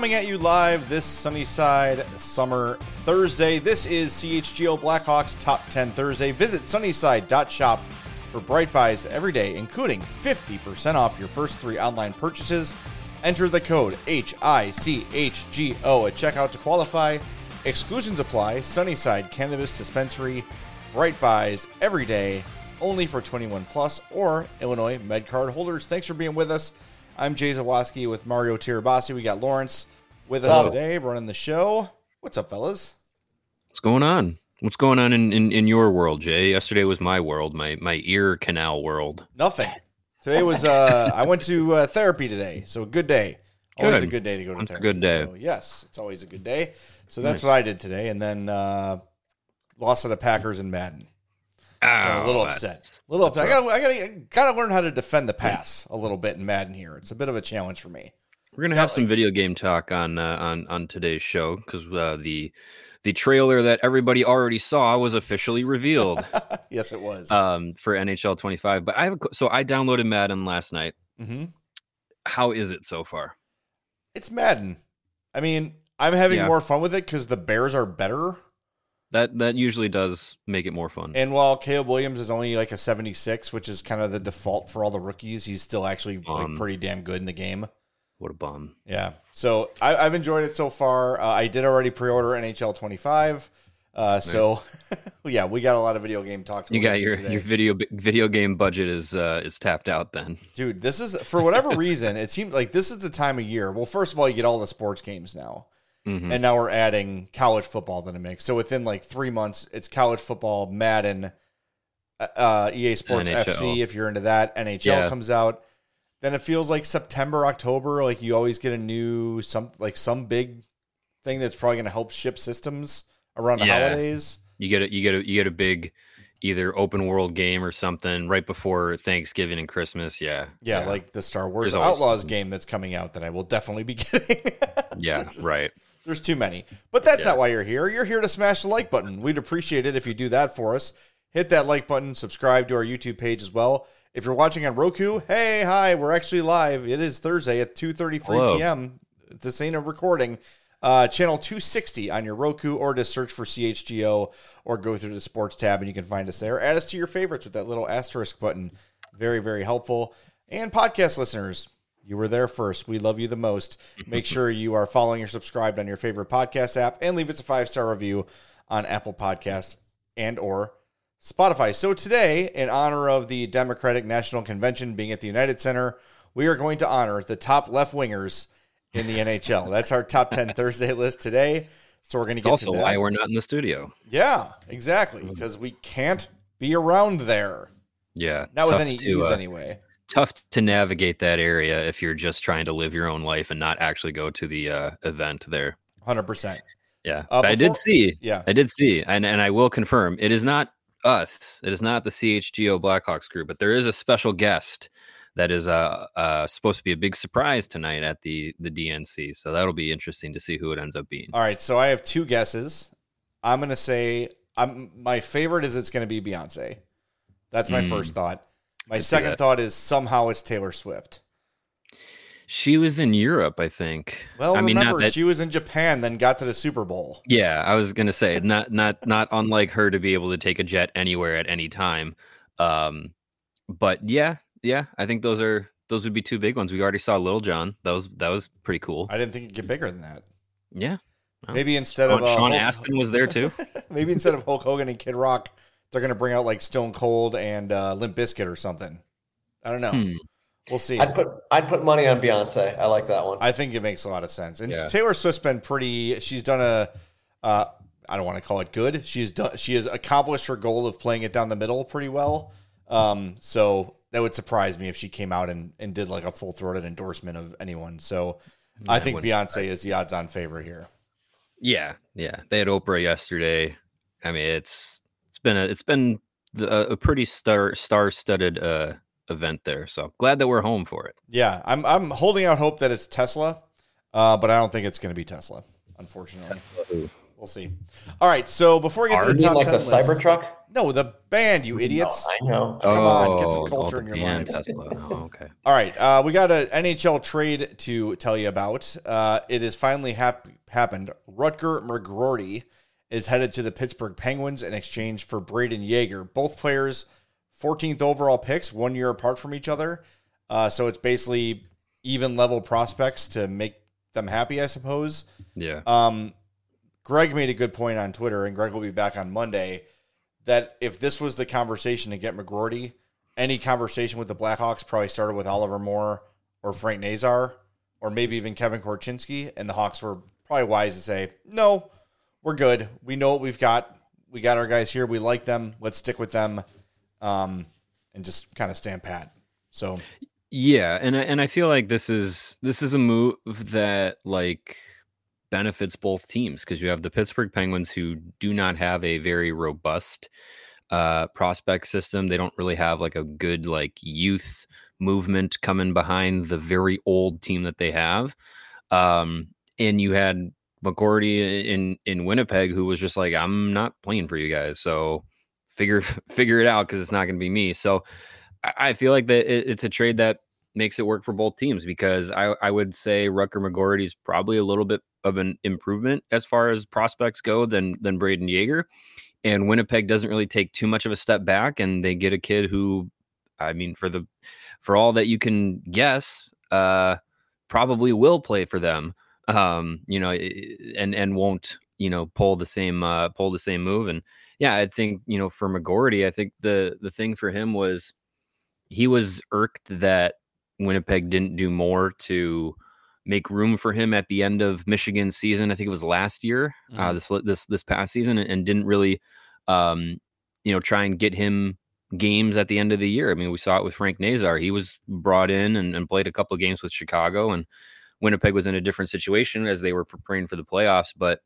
Coming at you live this Sunnyside Summer Thursday. This is CHGO Blackhawks Top 10 Thursday. Visit sunnyside.shop for Bright Buys every day, including 50% off your first 3 online purchases. Enter the code HICHGO at checkout to qualify. Exclusions apply. Sunnyside Cannabis Dispensary. Bright Buys every day, only for 21 plus or Illinois MedCard holders. Thanks for being with us. I'm Jay Zawoski with Mario Tirabassi. We got Lawrence with us today running the show. What's up, fellas? What's going on? What's going on in your world, Jay? Yesterday was my world, my ear canal world. Nothing. Today was, I went to therapy today, so a good day. Always a good day to go to therapy. A good day. So, yes, it's always a good day. So that's what I did today, and then lost to the Packers in Madden. So a little upset. A little upset. I gotta learn how to defend the pass a little bit in Madden here. It's a bit of a challenge for me. We're gonna have some video game talk on today's show because the trailer that everybody already saw was officially revealed. Yes, it was for NHL 25. But I downloaded Madden last night. Mm-hmm. How is it so far? It's Madden. I mean, I'm having more fun with it because the Bears are better. That usually does make it more fun. And while Caleb Williams is only like a 76, which is kind of the default for all the rookies, he's still actually like pretty damn good in the game. What a bum. Yeah. So I've enjoyed it so far. I did already pre-order NHL 25. So yeah, we got a lot of video game talk. You got your video game budget is tapped out then. Dude, this is, for whatever reason, it seemed like this is the time of year. Well, first of all, you get all the sports games now. Mm-hmm. And now we're adding college football to the mix. So within like 3 months, it's college football, Madden, EA Sports NHL. FC, if you're into that. NHL comes out. Then it feels like September, October, like you always get a new, some big thing that's probably going to help ship systems around the holidays. You get a big either open world game or something right before Thanksgiving and Christmas. Yeah. Like the Star Wars Outlaws game that's coming out that I will definitely be getting. Right. There's too many. But that's not why you're here. You're here to smash the like button. We'd appreciate it if you do that for us. Hit that like button. Subscribe to our YouTube page as well. If you're watching on Roku, hi, we're actually live. It is Thursday at 2:33 p.m. This ain't a recording. Channel 260 on your Roku, or just search for CHGO or go through the sports tab and you can find us there. Add us to your favorites with that little asterisk button. Very, very helpful. And podcast listeners, you were there first. We love you the most. Make sure you are following or subscribed on your favorite podcast app and leave us a 5-star review on Apple Podcasts and or Spotify. So today, in honor of the Democratic National Convention being at the United Center, we are going to honor the top left wingers in the NHL. That's our top 10 Thursday list today. So we're going to get to that. Also why we're not in the studio. Yeah, exactly. Because we can't be around there. Yeah. Not with any ease anyway. Tough to navigate that area if you're just trying to live your own life and not actually go to the event there. 100%. Yeah. But I did see, and I will confirm, it is not us. It is not the CHGO Blackhawks group, but there is a special guest that is supposed to be a big surprise tonight at the DNC. So that'll be interesting to see who it ends up being. All right. So I have 2 guesses. I'm going to say my favorite is it's going to be Beyonce. That's my first thought. My second thought is somehow it's Taylor Swift. She was in Europe, I think. Well, remember, she was in Japan, then got to the Super Bowl. Yeah, I was going to say, not unlike her to be able to take a jet anywhere at any time. But yeah, I think those would be 2 big ones. We already saw Lil Jon. That was pretty cool. I didn't think it'd get bigger than that. Yeah. Well, maybe instead of Sean Astin was there too. Maybe instead of Hulk Hogan and Kid Rock, they're going to bring out like Stone Cold and Limp Bizkit or something. I don't know. We'll see. I'd put money on Beyonce. I like that one. I think it makes a lot of sense. And Taylor Swift's been she's done I don't want to call it good. She has accomplished her goal of playing it down the middle pretty well. So that would surprise me if she came out and did like a full-throated endorsement of anyone. So I think Beyonce is the odds-on favorite here. Yeah. They had Oprah yesterday. I mean, it's been a pretty star-studded event there. So glad that we're home for it. Yeah, I'm holding out hope that it's Tesla, but I don't think it's going to be Tesla, unfortunately. We'll see. All right. So before we get to the top 10 the Cybertruck? No, the band, you idiots. No, I know. Come on, get some culture in your lives. Tesla. Oh, okay. All right. We got an NHL trade to tell you about. It has finally happened. Rutger McGroarty is headed to the Pittsburgh Penguins in exchange for Braden Yeager. Both players, 14th overall picks, 1 year apart from each other. So it's basically even level prospects to make them happy, I suppose. Yeah. Greg made a good point on Twitter, and Greg will be back on Monday, that if this was the conversation to get McGroarty, any conversation with the Blackhawks probably started with Oliver Moore or Frank Nazar or maybe even Kevin Korchinski, and the Hawks were probably wise to say, no, we're good. We know what we've got. We got our guys here. We like them. Let's stick with them, and just kind of stand pat. So, yeah, and I feel like this is a move that like benefits both teams, because you have the Pittsburgh Penguins, who do not have a very robust prospect system. They don't really have like a good like youth movement coming behind the very old team that they have. And you had McGroarty in Winnipeg, who was just like, I'm not playing for you guys, so figure it out, because it's not going to be me. So I feel like that it's a trade that makes it work for both teams, because I would say Rutger McGroarty is probably a little bit of an improvement as far as prospects go than Braden Yeager. And Winnipeg doesn't really take too much of a step back, and they get a kid who, I mean, for all that you can guess, probably will play for them, and won't, pull the same move. And yeah, I think, for McGroarty, I think the thing for him was he was irked that Winnipeg didn't do more to make room for him at the end of Michigan's season. I think it was last year, this past season, and didn't really, try and get him games at the end of the year. I mean, we saw it with Frank Nazar. He was brought in and played a couple of games with Chicago, and Winnipeg was in a different situation as they were preparing for the playoffs. But,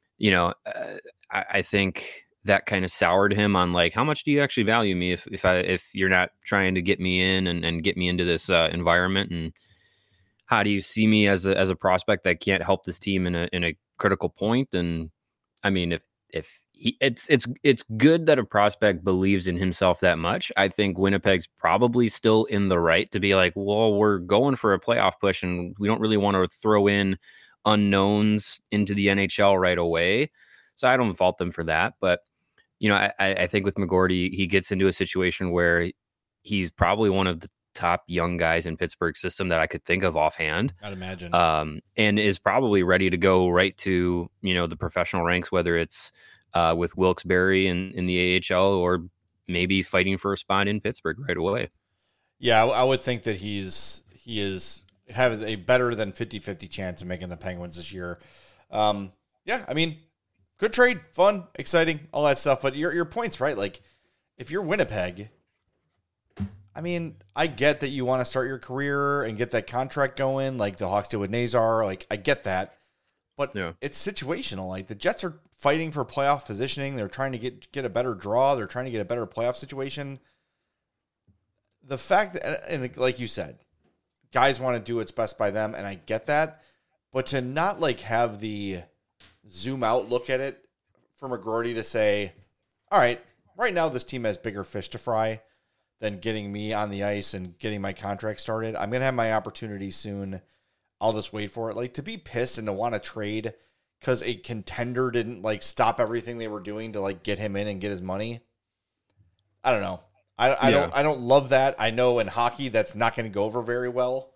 I think that kind of soured him on like, how much do you actually value me if you're not trying to get me in and get me into this environment, and how do you see me as a prospect that can't help this team in a critical point? And I mean, it's good that a prospect believes in himself that much. I think Winnipeg's probably still in the right to be like, well, we're going for a playoff push, and we don't really want to throw in unknowns into the NHL right away. So I don't fault them for that. But, I think with McGroarty, he gets into a situation where he's probably one of the top young guys in Pittsburgh's system that I could think of offhand. I'd imagine. And is probably ready to go right to, the professional ranks, whether it's with Wilkes-Barre in the AHL, or maybe fighting for a spot in Pittsburgh right away. Yeah, I would think that he has a better than 50-50 chance of making the Penguins this year. Yeah, I mean, good trade, fun, exciting, all that stuff. But your point's right. Like, if you're Winnipeg, I mean, I get that you want to start your career and get that contract going, like the Hawks did with Nazar. Like, I get that, but It's situational. Like, the Jets are fighting for playoff positioning. They're trying to get a better draw. They're trying to get a better playoff situation. The fact that, and like you said, guys want to do what's best by them, and I get that, but to not like have the zoom out look at it for McGroarty to say, all right now this team has bigger fish to fry than getting me on the ice and getting my contract started. I'm going to have my opportunity soon. I'll just wait for it. Like, to be pissed and to want to trade because a contender didn't like stop everything they were doing to like get him in and get his money. I don't know. I don't love that. I know in hockey that's not going to go over very well.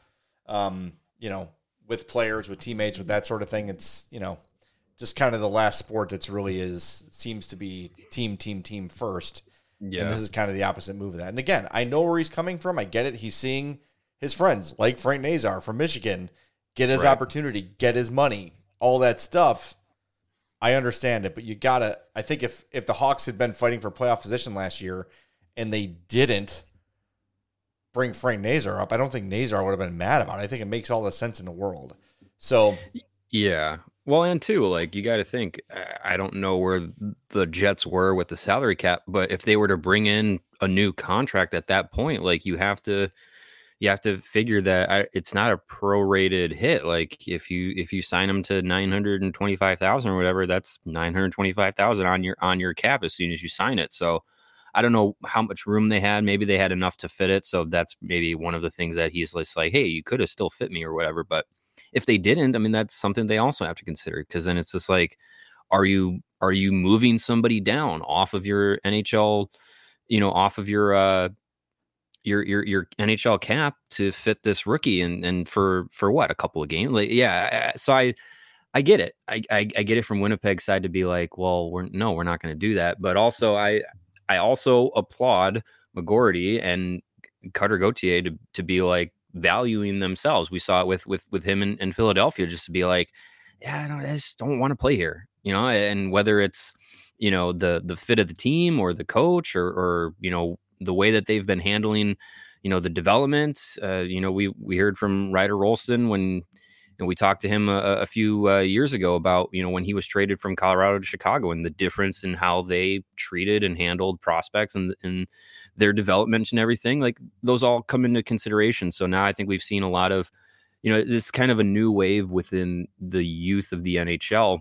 With players, with teammates, with that sort of thing. It's, just kind of the last sport that's really seems to be team first. Yeah. And this is kind of the opposite move of that. And again, I know where he's coming from. I get it. He's seeing his friends like Frank Nazar from Michigan get his opportunity, get his money, all that stuff. I understand it, but you gotta, I think if the Hawks had been fighting for playoff position last year and they didn't bring Frank Nazar up, I don't think Nazar would have been mad about it. I think it makes all the sense in the world. So yeah. Well, and too, like, you got to think, I don't know where the Jets were with the salary cap, but if they were to bring in a new contract at that point, like, you have to you have to figure that it's not a prorated hit. Like if you sign him to 925,000 or whatever, that's 925,000 on your cap as soon as you sign it. So I don't know how much room they had. Maybe they had enough to fit it. So that's maybe one of the things that he's just like, hey, you could have still fit me or whatever. But if they didn't, I mean, that's something they also have to consider, because then it's just like, are you moving somebody down off of your NHL, off of your NHL cap to fit this rookie and for what, a couple of games? Like, yeah. So I get it. I get it from Winnipeg's side to be like, well, we're not going to do that. But also I also applaud McGorty and Cutter Gauthier to be like valuing themselves. We saw it with him in Philadelphia, just to be like, yeah, I just don't want to play here, and whether it's, the fit of the team or the coach or the way that they've been handling, the development. We heard from Ryder Rolston when we talked to him a few years ago about, when he was traded from Colorado to Chicago, and the difference in how they treated and handled prospects and their development and everything. Like, those all come into consideration. So now I think we've seen a lot of, this kind of a new wave within the youth of the NHL,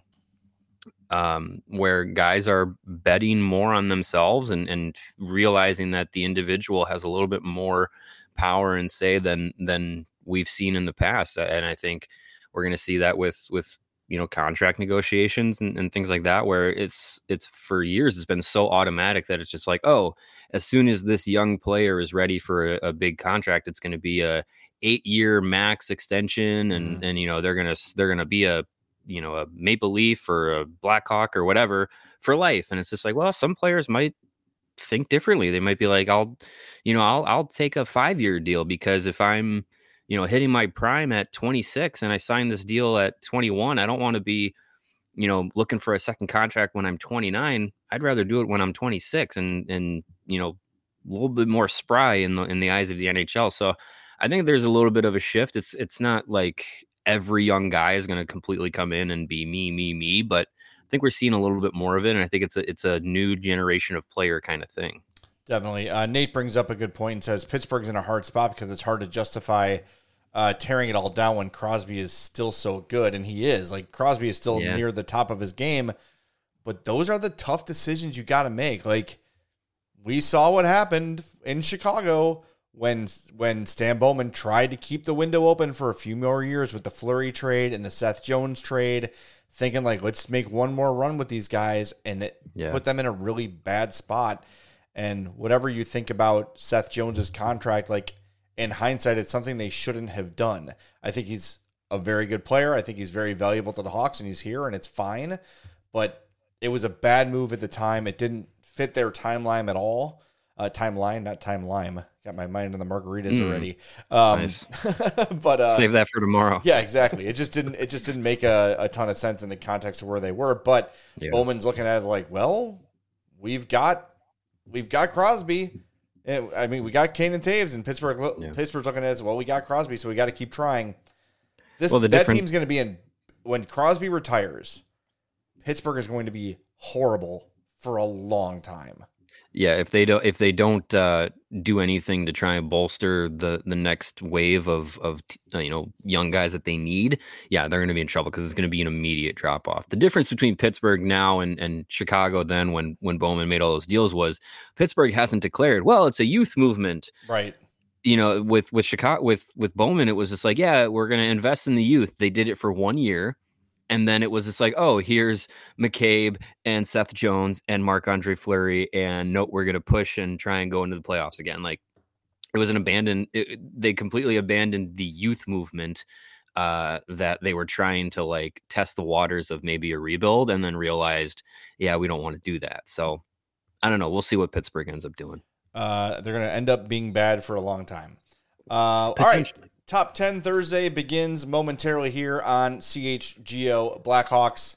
where guys are betting more on themselves and realizing that the individual has a little bit more power and say than we've seen in the past. And I think we're going to see that with contract negotiations and things like that, where it's for years it's been so automatic that it's just like, oh, as soon as this young player is ready for a big contract, it's going to be a 8-year max extension, and they're going to be a Maple Leaf or a Blackhawk or whatever for life. And it's just like, well, some players might think differently. They might be like, I'll take a 5-year deal, because if I'm, hitting my prime at 26 and I sign this deal at 21, I don't want to be, looking for a second contract when I'm 29. I'd rather do it when I'm 26 and a little bit more spry in the eyes of the NHL. So I think there's a little bit of a shift. It's not like every young guy is going to completely come in and be me, but I think we're seeing a little bit more of it. And I think it's a new generation of player kind of thing. Definitely. Nate brings up a good point and says Pittsburgh's in a hard spot because it's hard to justify tearing it all down when Crosby is still so good. And he is. Like, Crosby is still near the top of his game. But those are the tough decisions you got to make. Like, we saw what happened in Chicago when Stan Bowman tried to keep the window open for a few more years with the Fleury trade and the Seth Jones trade, thinking like, let's make one more run with these guys, and it put them in a really bad spot. And whatever you think about Seth Jones's contract, like, in hindsight, it's something they shouldn't have done. I think he's a very good player. I think he's very valuable to the Hawks, and he's here, and it's fine. But it was a bad move at the time. It didn't fit their timeline at all. Timeline, not time lime. Got my mind on the margaritas already. Nice. But save that for tomorrow. Yeah, exactly. It just didn't make a ton of sense in the context of where they were. But Bowman's looking at it like, well, we've got Crosby. I mean, we got Kane and Taves, and Pittsburgh. Pittsburgh's looking at it, well, we got Crosby, so we got to keep trying. That team's going to be in when Crosby retires. Pittsburgh is going to be horrible for a long time. Yeah, if they don't do anything to try and bolster the next wave of young guys that they need, they're going to be in trouble, because it's going to be an immediate drop off. The difference between Pittsburgh now and Chicago then, when Bowman made all those deals, was Pittsburgh hasn't declared, well, it's a youth movement, right? With Chicago, with Bowman, it was just like, we're going to invest in the youth. They did it for 1 year. And then it was just like, oh, here's McCabe and Seth Jones and Marc-Andre Fleury, and we're going to push and try and go into the playoffs again. Like, it was they completely abandoned the youth movement that they were trying to like test the waters of maybe a rebuild, and then realized, we don't want to do that. So I don't know. We'll see what Pittsburgh ends up doing. They're going to end up being bad for a long time. All right. Top 10 Thursday begins momentarily here on CHGO Blackhawks.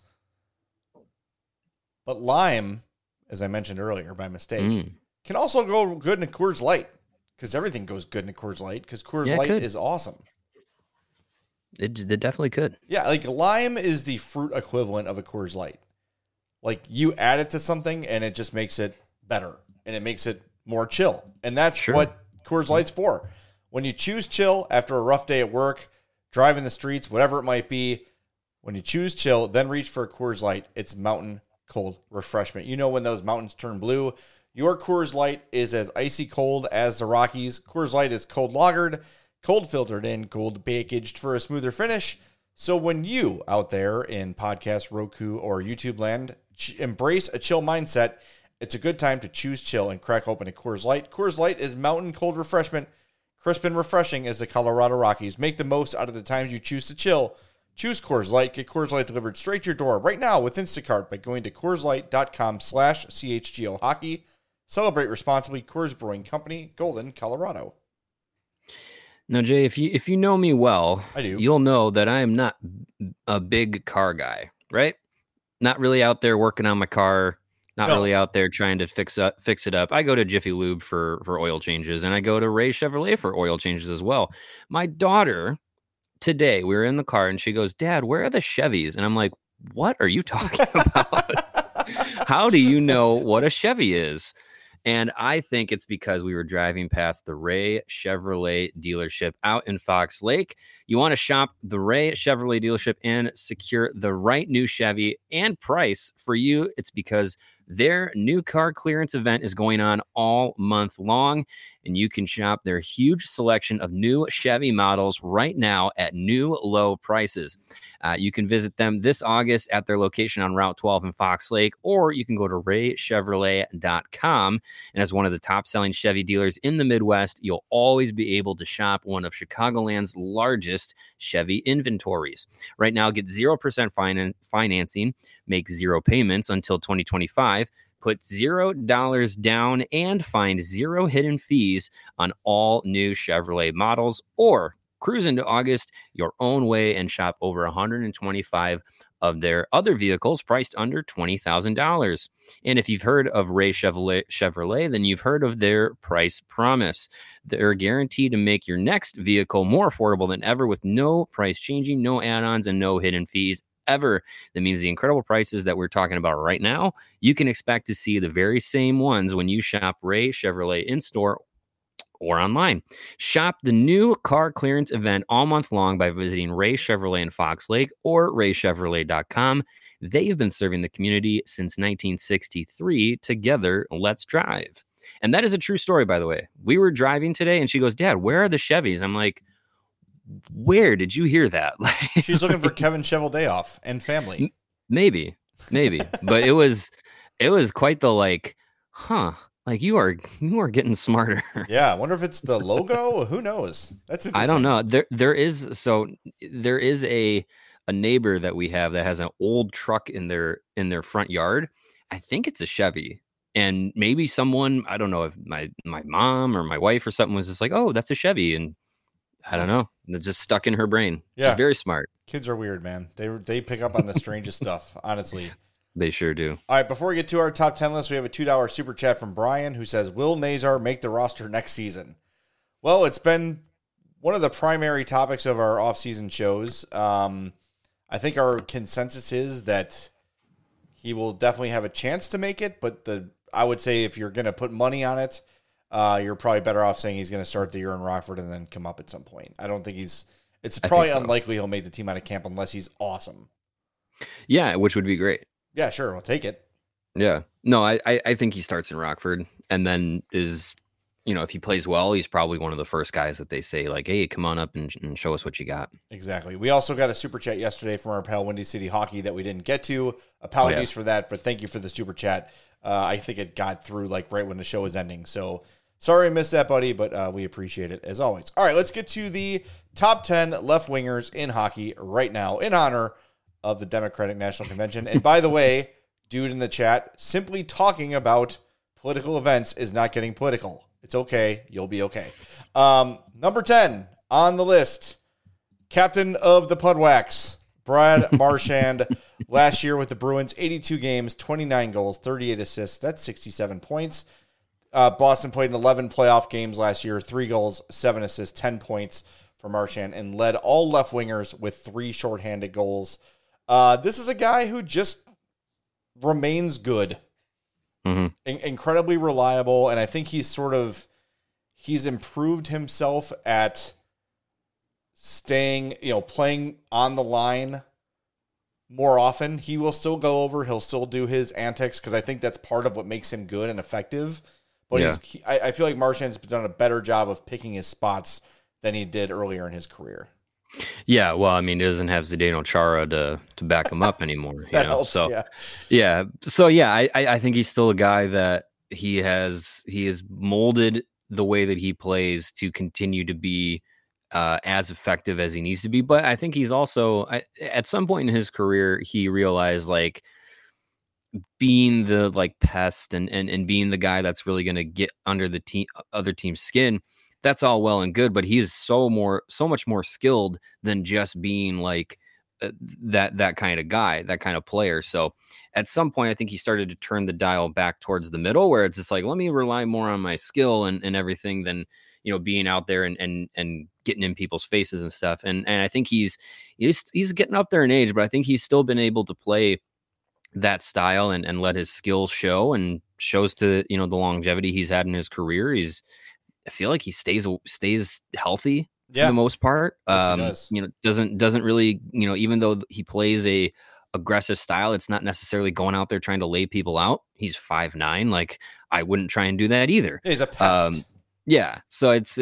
But lime, as I mentioned earlier by mistake, can also go good in a Coors Light, because everything goes good in a Coors Light, because Coors Light is awesome. It definitely could. Yeah, like lime is the fruit equivalent of a Coors Light. Like, you add it to something and it just makes it better, and it makes it more chill. And that's what Coors Light's for. When you choose chill after a rough day at work, driving the streets, whatever it might be, when you choose chill, then reach for a Coors Light. It's mountain cold refreshment. You know when those mountains turn blue, your Coors Light is as icy cold as the Rockies. Coors Light is cold lagered, cold filtered, and cold packaged for a smoother finish. So when you out there in podcast, Roku, or YouTube land embrace a chill mindset, it's a good time to choose chill and crack open a Coors Light. Coors Light is mountain cold refreshment, crisp and refreshing as the Colorado Rockies. Make the most out of the times you choose to chill. Choose Coors Light. Get Coors Light delivered straight to your door right now with Instacart by going to CoorsLight.com/CHGO Hockey. Celebrate responsibly. Coors Brewing Company, Golden, Colorado. Now, Jay, if you know me well, I do. You'll know that I am not a big car guy, right? Not really out there working on my car. Not really out there trying to fix it up. I go to Jiffy Lube for oil changes, and I go to Ray Chevrolet for oil changes as well. My daughter, today, we were in the car, and she goes, "Dad, where are the Chevys?" And I'm like, "What are you talking about? How do you know what a Chevy is?" And I think it's because we were driving past the Ray Chevrolet dealership out in Fox Lake. You want to shop the Ray Chevrolet dealership and secure the right new Chevy and price for you. It's because their new car clearance event is going on all month long, and you can shop their huge selection of new Chevy models right now at new low prices. You can visit them this August at their location on Route 12 in Fox Lake, or you can go to raychevrolet.com. And as one of the top-selling Chevy dealers in the Midwest, you'll always be able to shop one of Chicagoland's largest Chevy inventories. Right now, get 0% financing, make 0 payments until 2025, put $0 down, and find 0 hidden fees on all new Chevrolet models, or cruise into August your own way and shop over 125 of their other vehicles priced under $20,000. And if you've heard of Ray Chevrolet, then you've heard of their price promise. They're guaranteed to make your next vehicle more affordable than ever with no price changing, no add-ons, and no hidden fees ever. That means the incredible prices that we're talking about right now, you can expect to see the very same ones when you shop Ray Chevrolet in-store or online. Shop the new car clearance event all month long by visiting Ray Chevrolet in Fox Lake or raychevrolet.com. They've been serving the community since 1963. Together, let's drive. And that is a true story, by the way. We were driving today and she goes, "Dad, where are the Chevys?" I'm like, "Where did you hear that?" She's looking for Kevin Chevel off and family. Maybe. But it was quite the like, like you are getting smarter. Yeah, I wonder if it's the logo. Who knows? That's interesting. I don't know. There is a neighbor that we have that has an old truck in their front yard. I think it's a Chevy. And maybe someone, I don't know if my mom or my wife or something was just like, "Oh, that's a Chevy." And I don't know. It's just stuck in her brain. Yeah. She's very smart. Kids are weird, man. They pick up on the strangest stuff, honestly. They sure do. All right, before we get to our top 10 list, we have a $2 super chat from Brian who says, "Will Nazar make the roster next season?" Well, it's been one of the primary topics of our off-season shows. I think our consensus is that he will definitely have a chance to make it, but I would say if you're going to put money on it, you're probably better off saying he's going to start the year in Rockford and then come up at some point. I don't think it's probably unlikely he'll make the team out of camp unless he's awesome. Yeah, which would be great. Yeah, sure. We'll take it. Yeah. No, I think he starts in Rockford and then is, if he plays well, he's probably one of the first guys that they say like, "Hey, come on up and show us what you got." Exactly. We also got a super chat yesterday from our pal Windy City Hockey that we didn't get to. Apologies for that, but thank you for the super chat. I think it got through like right when the show was ending. So sorry I missed that, buddy, but we appreciate it as always. All right, let's get to the top 10 left wingers in hockey right now in honor of the Democratic National Convention. And by the way, dude in the chat, simply talking about political events is not getting political. It's okay. You'll be okay. Number 10 on the list, captain of the Pudwax, Brad Marchand. Last year with the Bruins, 82 games, 29 goals, 38 assists. That's 67 points. Boston played in 11 playoff games last year, 3 goals, 7 assists, 10 points for Marchand, and led all left wingers with 3 shorthanded goals. This is a guy who just remains good, incredibly reliable, and I think he's he's improved himself at staying, playing on the line more often. He will still go over. He'll still do his antics because I think that's part of what makes him good and effective. But I feel like Marchand's done a better job of picking his spots than he did earlier in his career. Yeah, well, I mean, he doesn't have Zdeno Chara to back him up anymore. That helps, So I think he's still a guy that he has molded the way that he plays to continue to be as effective as he needs to be. But I think he's also at some point in his career, he realized like being the like pest and being the guy that's really going to get under the other team's skin. That's all well and good, but he is so much more skilled than just being like that kind of guy, that kind of player. So at some point, I think he started to turn the dial back towards the middle, where it's just like, let me rely more on my skill and everything than being out there and getting in people's faces and stuff. And I think he's getting up there in age, but I think he's still been able to play that style and let his skills show, and shows to the longevity he's had in his career. I feel like he stays healthy for the most part. Yes, he does. Doesn't really, even though he plays a aggressive style, it's not necessarily going out there trying to lay people out. He's 5'9". Like, I wouldn't try and do that either. He's a pest. Yeah. So it's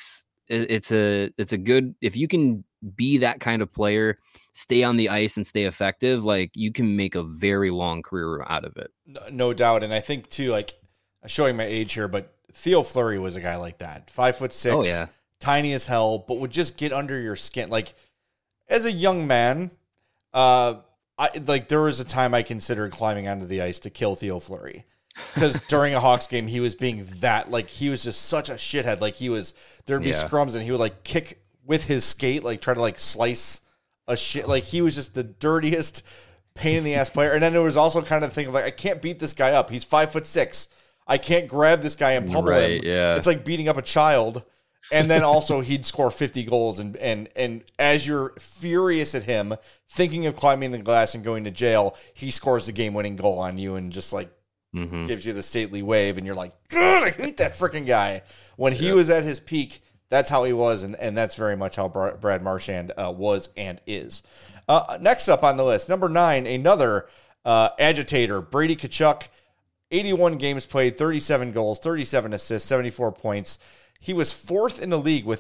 a good, if you can be that kind of player, stay on the ice and stay effective, like you can make a very long career out of it. No doubt. And I think too, like, I'm showing my age here, but Theo Fleury was a guy like that. 5'6", tiny as hell, but would just get under your skin. Like, as a young man, there was a time I considered climbing onto the ice to kill Theo Fleury. Because during a Hawks game, he was being that, like, he was just such a shithead. Like, there'd be scrums and he would like kick with his skate, like try to like slice a shit. Like, he was just the dirtiest pain in the ass player. And then there was also kind of the thing of like, I can't beat this guy up. He's 5'6". I can't grab this guy and pummel him. Yeah. It's like beating up a child. And then also he'd score 50 goals. And as you're furious at him, thinking of climbing the glass and going to jail, he scores the game-winning goal on you and just like gives you the stately wave. And you're like, God, I hate that freaking guy. When he was at his peak, that's how he was. And that's very much how Brad Marchand was and is. Next up on the list, number 9, another agitator, Brady Tkachuk. 81 games played, 37 goals, 37 assists, 74 points. He was 4th in the league with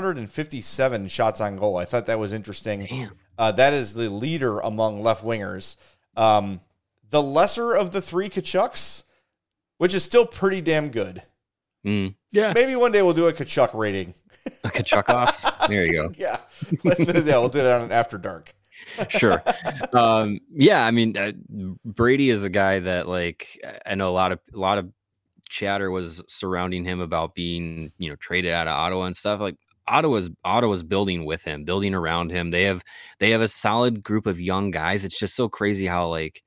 357 shots on goal. I thought that was interesting. Damn. That is the leader among left wingers. The lesser of the 3 Tkachuks, which is still pretty damn good. Yeah. Maybe one day we'll do a Tkachuk rating. A Tkachuk off? There you go. Yeah. We'll do it on an After Dark. Sure. Yeah, I mean, Brady is a guy that, like, I know a lot of chatter was surrounding him about being, traded out of Ottawa and stuff. Like, Ottawa's building with him, building around him. They have a solid group of young guys. It's just so crazy how, like,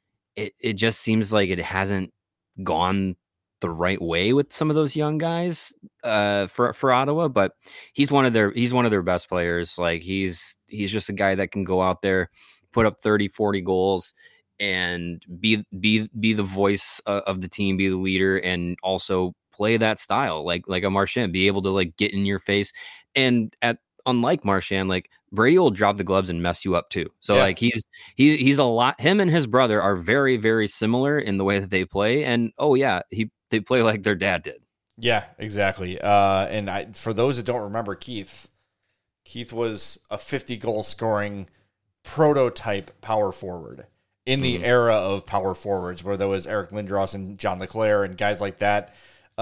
it just seems like it hasn't gone the right way with some of those young guys for Ottawa, but he's one of their best players. Like, he's just a guy that can go out there, put up 30-40 goals and be the voice of the team, be the leader, and also play that style like a Marchand, be able to like get in your face. And unlike Marchand, like, Brady will drop the gloves and mess you up too. So like he's a lot. Him and his brother are very, very similar in the way that they play. And they play like their dad did. Yeah, exactly. And for those that don't remember, Keith was a 50 goal scoring prototype power forward in the era of power forwards, where there was Eric Lindros and John LeClair and guys like that.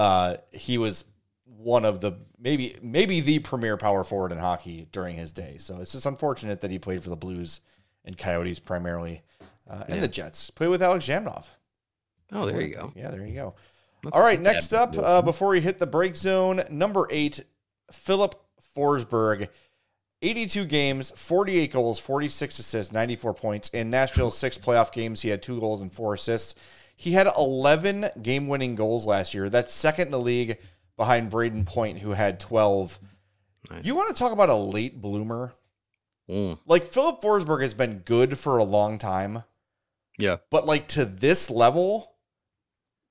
He was one of the maybe the premier power forward in hockey during his day. So it's just unfortunate that he played for the Blues and Coyotes primarily, and the Jets. Played with Alex Jamnov. Oh, there you go. Yeah, there you go. All right, next up, before we hit the break zone, number 8, Philip Forsberg. 82 games, 48 goals, 46 assists, 94 points. In Nashville's 6 playoff games, he had 2 goals and 4 assists. He had 11 game-winning goals last year. That's second in the league behind Braden Point, who had 12. Nice. You want to talk about a late bloomer? Like, Philip Forsberg has been good for a long time. Yeah. But, like, to this level,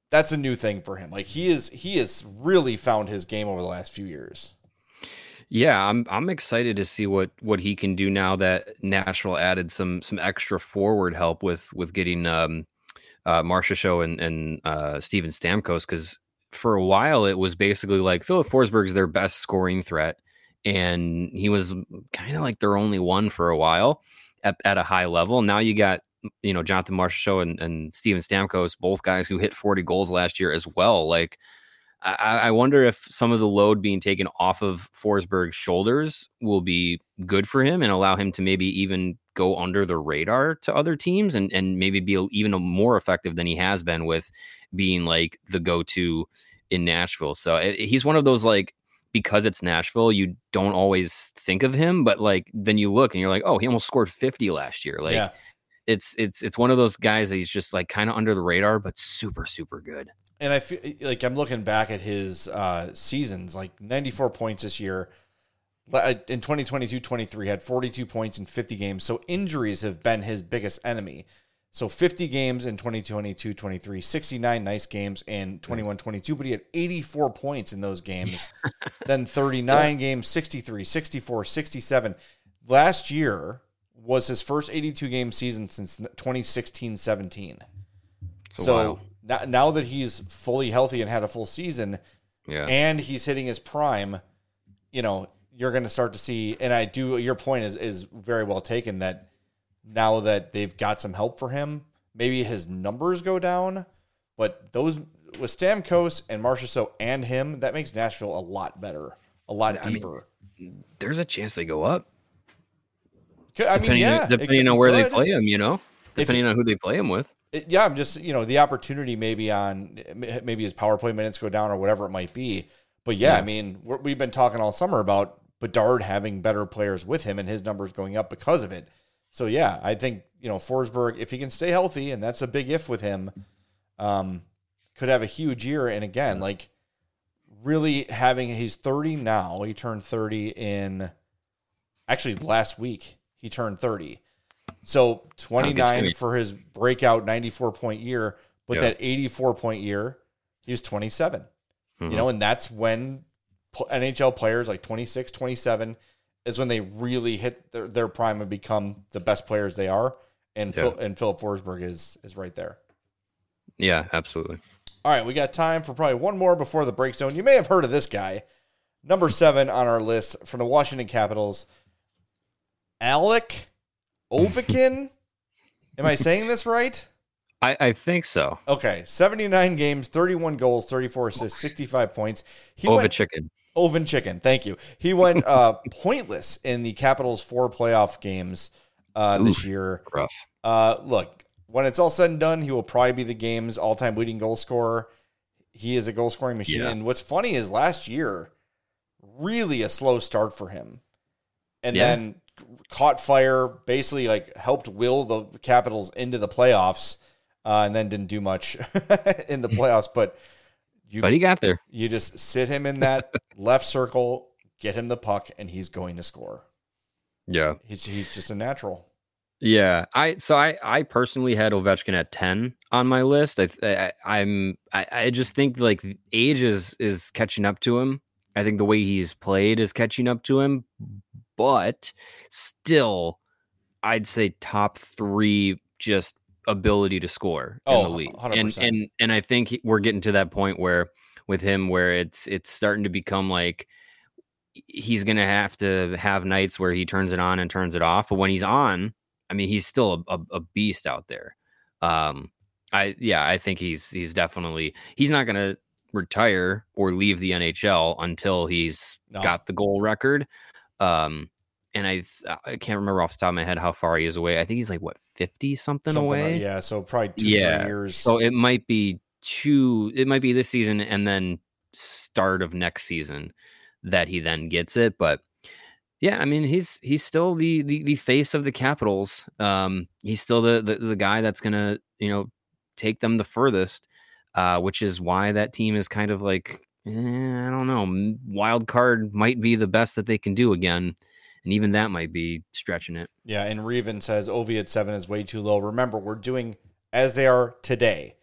that's a new thing for him. Like he has really found his game over the last few years. Yeah, I'm excited to see what he can do now that Nashville added some extra forward help with getting Marcia Show and Steven Stamkos, because for a while it was basically like Philip Forsberg's their best scoring threat, and he was kind of like their only one for a while at a high level. Now you got Jonathan Marcia Show and Steven Stamkos, both guys who hit 40 goals last year as well. Like, I wonder if some of the load being taken off of Forsberg's shoulders will be good for him and allow him to maybe even go under the radar to other teams and maybe be even more effective than he has been with being like the go-to in Nashville. So he's one of those, like, because it's Nashville, you don't always think of him, but like then you look and you're like, oh, he almost scored 50 last year. Like, yeah. It's one of those guys that he's just like kind of under the radar, but super, super good. And I feel like I'm looking back at his seasons, like 94 points this year. In 2022-23, had 42 points in 50 games. So injuries have been his biggest enemy. So 50 games in 2022-23, 69 nice games in 21-22, but he had 84 points in those games. Then 39 games, 63, 64, 67. Last year was his first 82-game season since 2016-17. So wow. Now that he's fully healthy and had a full season, and he's hitting his prime, you're going to start to see, and your point is very well taken, that now that they've got some help for him, maybe his numbers go down, but those with Stamkos and Marchessault and him, that makes Nashville a lot better, a lot deeper. There's a chance they go up. Depending on where they play him, depending on who they play him with. I'm just, the opportunity maybe his power play minutes go down or whatever it might be. But I mean, we've been talking all summer about Bedard having better players with him and his numbers going up because of it. So I think, Forsberg, if he can stay healthy, and that's a big if with him, could have a huge year. And again, like really he's 30 now. He turned 30 last week he turned 30. So 29 for his breakout 94-point year, but that 84-point year, he was 27. Mm-hmm. And that's when NHL players like 26, 27 is when they really hit their prime and become the best players they are. And Philip Forsberg is right there. Yeah, absolutely. All right, we got time for probably one more before the break zone. You may have heard of this guy. Number 7 on our list from the Washington Capitals, Alec Ovechkin. Am I saying this right? I think so. Okay, 79 games, 31 goals, 34 assists, 65 points. Ovechkin, thank you. He went pointless in the Capitals' 4 playoff games this year. Rough. Look, when it's all said and done, he will probably be the game's all-time leading goal scorer. He is a goal-scoring machine. Yeah. And what's funny is last year, really a slow start for him. And then caught fire, basically like helped will the Capitals into the playoffs, and then didn't do much in the playoffs. But he got there. You just sit him in that left circle, get him the puck, and he's going to score. Yeah. He's just a natural. Yeah. I personally had Ovechkin at 10 on my list. I just think like age is catching up to him. I think the way he's played is catching up to him, but still, I'd say top 3 just ability to score in the league. 100%. And I think we're getting to that point where with him where it's starting to become like he's going to have nights where he turns it on and turns it off. But when he's on, I mean, he's still a beast out there. I think he's definitely, he's not going to retire or leave the NHL until he's got the goal record. And I can't remember off the top of my head how far he is away. I think he's like 50 something away. Yeah. So probably 2-3 years. So it might be this season and then start of next season that he then gets it. But yeah, I mean, he's still the face of the Capitals. He's still the guy that's going to, take them the furthest, which is why that team is kind of like, I don't know, wild card might be the best that they can do again. And even that might be stretching it. Yeah, and Reven says Ovi at 7 is way too low. Remember, we're doing as they are today,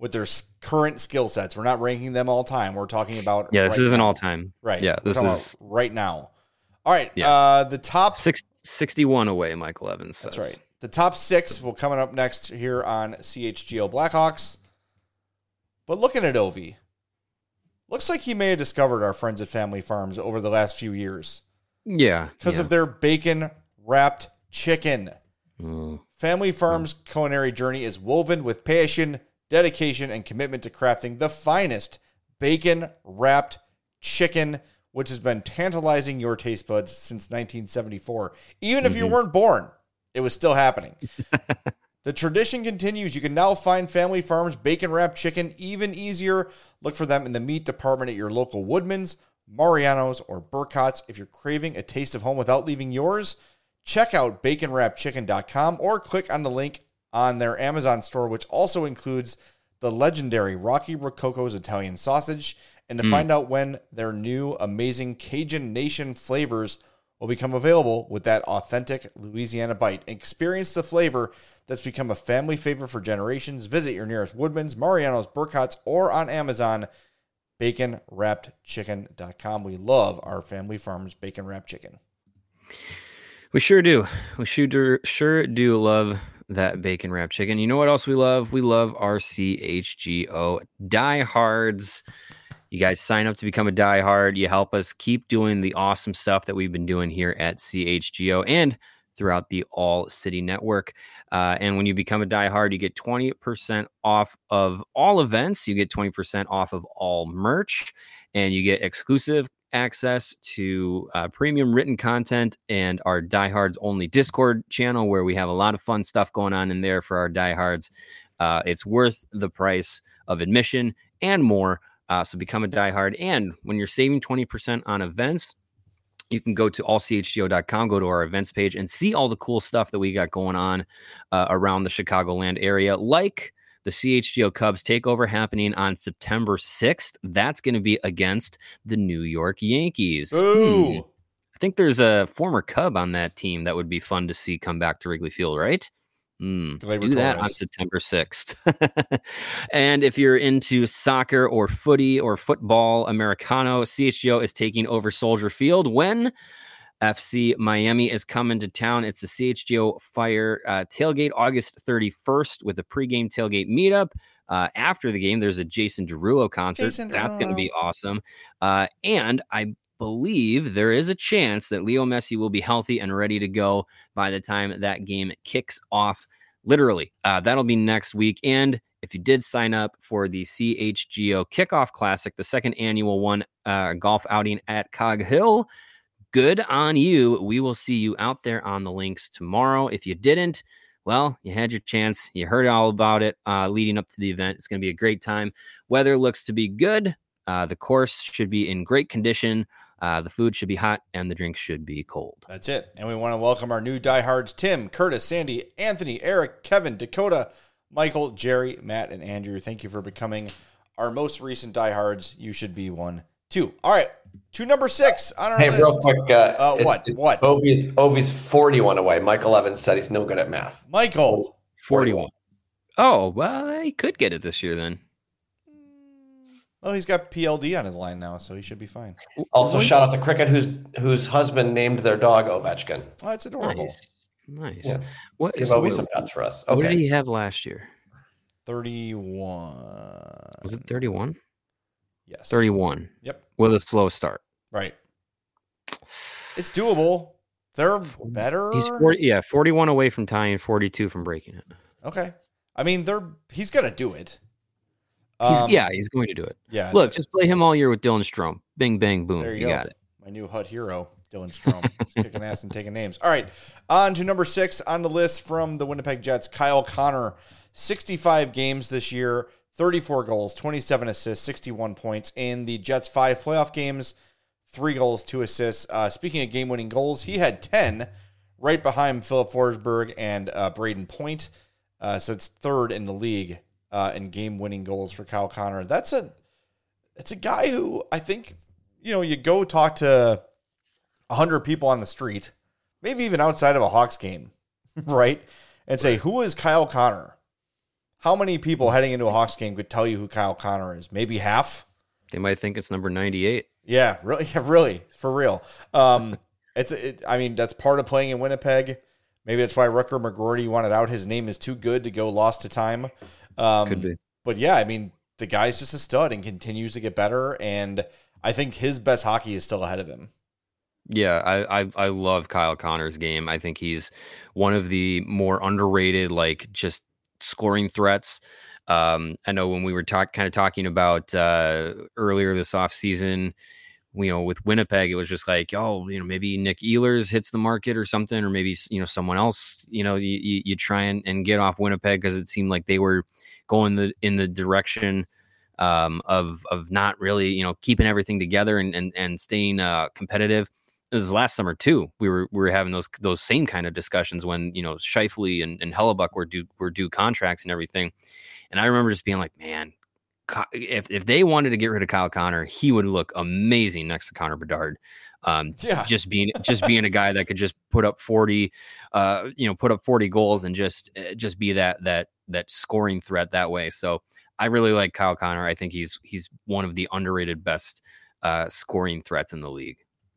with their current skill sets. We're not ranking them all time. We're talking about this isn't all time. Right. Yeah, this is right now. All right. Yeah. The top 61 away, Michael Evans says. That's right. The top 6 will coming up next here on CHGO Blackhawks. But looking at Ovi, looks like he may have discovered our friends at Family Farms over the last few years. Yeah. Because of their bacon-wrapped chicken. Family Farms' culinary journey is woven with passion, dedication, and commitment to crafting the finest bacon-wrapped chicken, which has been tantalizing your taste buds since 1974. Even if you weren't born, it was still happening. The tradition continues. You can now find Family Farms bacon-wrapped chicken even easier. Look for them in the meat department at your local Woodman's, Mariano's, or Burkott's. If you're craving a taste of home without leaving yours, check out baconwrappedchicken.com or click on the link on their Amazon store, which also includes the legendary Rocky Rococo's Italian sausage. And to find out when their new amazing Cajun Nation flavors will become available with that authentic Louisiana bite. Experience the flavor that's become a family favorite for generations. Visit your nearest Woodman's, Mariano's, Burkott's, or on Amazon, baconwrappedchicken.com. We love our Family Farms bacon wrapped chicken. We sure do. We sure do love that bacon wrapped chicken. You know what else we love? We love our CHGO diehards. You guys sign up to become a diehard. You help us keep doing the awesome stuff that we've been doing here at CHGO and throughout the All City Network. And when you become a diehard, you get 20% off of all events. You get 20% off of all merch, and you get exclusive access to premium written content and our diehards only Discord channel, where we have a lot of fun stuff going on in there for our diehards. It's worth the price of admission and more. So become a diehard. And when you're saving 20% on events, you can go to allchgo.com, go to our events page, and see all the cool stuff that we got going on around the Chicagoland area, like the CHGO Cubs takeover happening on September 6th. That's going to be against the New York Yankees. Ooh. I think there's a former Cub on that team that would be fun to see come back to Wrigley Field, right? Do that on September 6th. And if you're into soccer or footy or football Americano, CHGO is taking over Soldier Field when FC Miami is coming to town. It's the CHGO Fire tailgate August 31st with a pregame tailgate meetup. After the game, there's a Jason Derulo concert. That's going to be awesome. And I believe there is a chance that Leo Messi will be healthy and ready to go by the time that game kicks off. Literally, that'll be next week. And if you did sign up for the CHGO Kickoff Classic, the second annual one, golf outing at Cog Hill, good on you. We will see you out there on the links tomorrow. If you didn't, well, you had your chance. You heard all about it leading up to the event. It's going to be a great time. Weather looks to be good. The course should be in great condition. The food should be hot, and the drinks should be cold. That's it. And we want to welcome our new diehards, Tim, Curtis, Sandy, Anthony, Eric, Kevin, Dakota, Michael, Jerry, Matt, and Andrew. Thank you for becoming our most recent diehards. You should be one, too. All right, to number 6 on our list. Real quick. What? Ovi's 41 away. Michael Evans said he's no good at math. Michael. 41. Oh, well, he could get it this year then. Well, he's got PLD on his line now, so he should be fine. Also, shout out to Cricket, whose husband named their dog Ovechkin. Oh, that's adorable. Nice. Yeah. What Give Ovi some nuts for us. Okay. What did he have last year? 31. Was it 31? Yes. 31. Yep. With a slow start. Right. It's doable. They're better. He's 41 away from tying, 42 from breaking it. Okay. I mean, he's going to do it. He's going to do it. Yeah. Look, just play him all year with Dylan Strome. Bing, bang, boom. There you got it. My new HUD hero, Dylan Strome. Kicking ass and taking names. All right. On to number 6 on the list from the Winnipeg Jets, Kyle Connor. 65 games this year, 34 goals, 27 assists, 61 points. In the Jets' 5 playoff games, 3 goals, 2 assists. Speaking of game-winning goals, he had 10 right behind Philip Forsberg and Braden Point. So it's third in the league. And game-winning goals for Kyle Connor. It's a guy who I think, you go talk to 100 people on the street, maybe even outside of a Hawks game, right? And say, who is Kyle Connor? How many people heading into a Hawks game could tell you who Kyle Connor is? Maybe half? They might think it's number 98. Yeah, really, for real. I mean, that's part of playing in Winnipeg. Maybe that's why Rutger McGroarty wanted out. His name is too good to go lost to time. Could be. But yeah, I mean, the guy's just a stud and continues to get better. And I think his best hockey is still ahead of him. Yeah, I love Kyle Connor's game. I think he's one of the more underrated, like, just scoring threats. I know when we were talking about earlier this offseason, with Winnipeg, it was just like, maybe Nick Ehlers hits the market or something, or maybe, someone else, you try and get off Winnipeg, because it seemed like they were going in the direction of not really, keeping everything together and staying competitive. This is last summer too. We were having those same kind of discussions when, Scheifele and Hellebuck were due contracts and everything. And I remember just being like, man, if they wanted to get rid of Kyle Connor, he would look amazing next to Connor Bedard. Just being a guy that could just put up 40 goals and just be that scoring threat that way. So I really like Kyle Connor. I think he's one of the underrated best scoring threats in the league.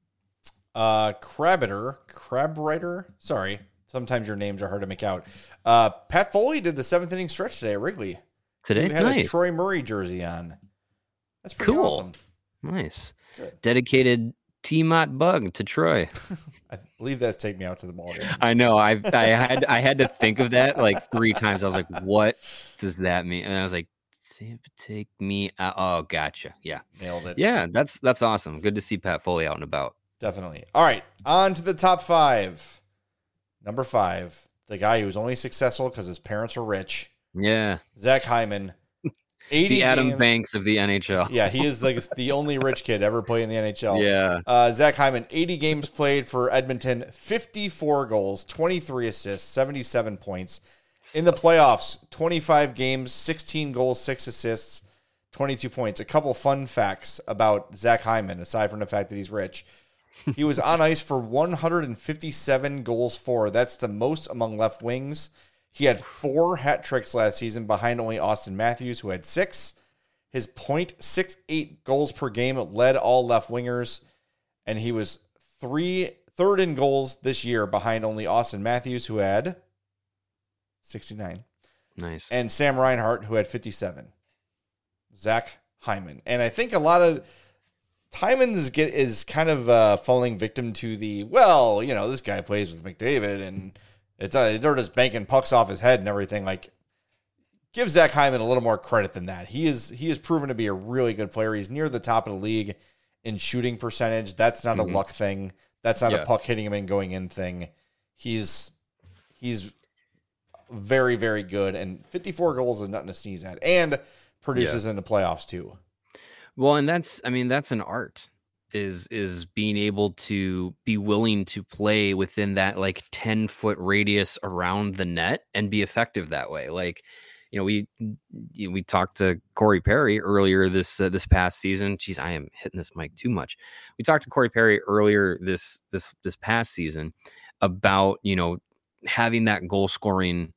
Crabwriter. Sorry. Sometimes your names are hard to make out. Pat Foley did the 7th inning stretch today at Wrigley. Today? He had nice. a Troy Murray jersey on. That's pretty cool. Awesome. Nice. Good. Dedicated T-Mott bug to Troy. I believe that's Take Me Out to the Ball game. I know. I had to think of that like 3 times. I was like, what does that mean? And I was like, take me out. Oh, gotcha. Yeah. Nailed it. Yeah, that's awesome. Good to see Pat Foley out and about. Definitely. All right, on to the top 5. Number 5, the guy who was only successful because his parents were rich. Yeah. Zach Hyman. 80 the Adam games. Banks of the NHL. Yeah, he is like the only rich kid ever played in the NHL. Yeah. Zach Hyman, 80 games played for Edmonton, 54 goals, 23 assists, 77 points. In the playoffs, 25 games, 16 goals, 6 assists, 22 points. A couple fun facts about Zach Hyman, aside from the fact that he's rich. He was on ice for 157 goals for. That's the most among left wings. He had 4 hat tricks last season behind only Auston Matthews, who had 6. His .68 goals per game led all left wingers, and he was third in goals this year behind only Auston Matthews, who had 69. Nice. And Sam Reinhart, who had 57. Zach Hyman. And I think a lot of Hyman is kind of falling victim to this guy plays with McDavid, and they're just banking pucks off his head and everything. Like, give Zach Hyman a little more credit than that. He is proven to be a really good player. He's near the top of the league in shooting percentage. That's not a luck thing. That's not a puck hitting him and going in thing. He's very, very good, and 54 goals is nothing to sneeze at, and produces in the playoffs too. Well, and that's an art, is being able to be willing to play within that like 10-foot radius around the net and be effective that way. Like, we talked to Corey Perry earlier this past season. Jeez, I am hitting this mic too much. We talked to Corey Perry earlier this past season about, having that goal scoring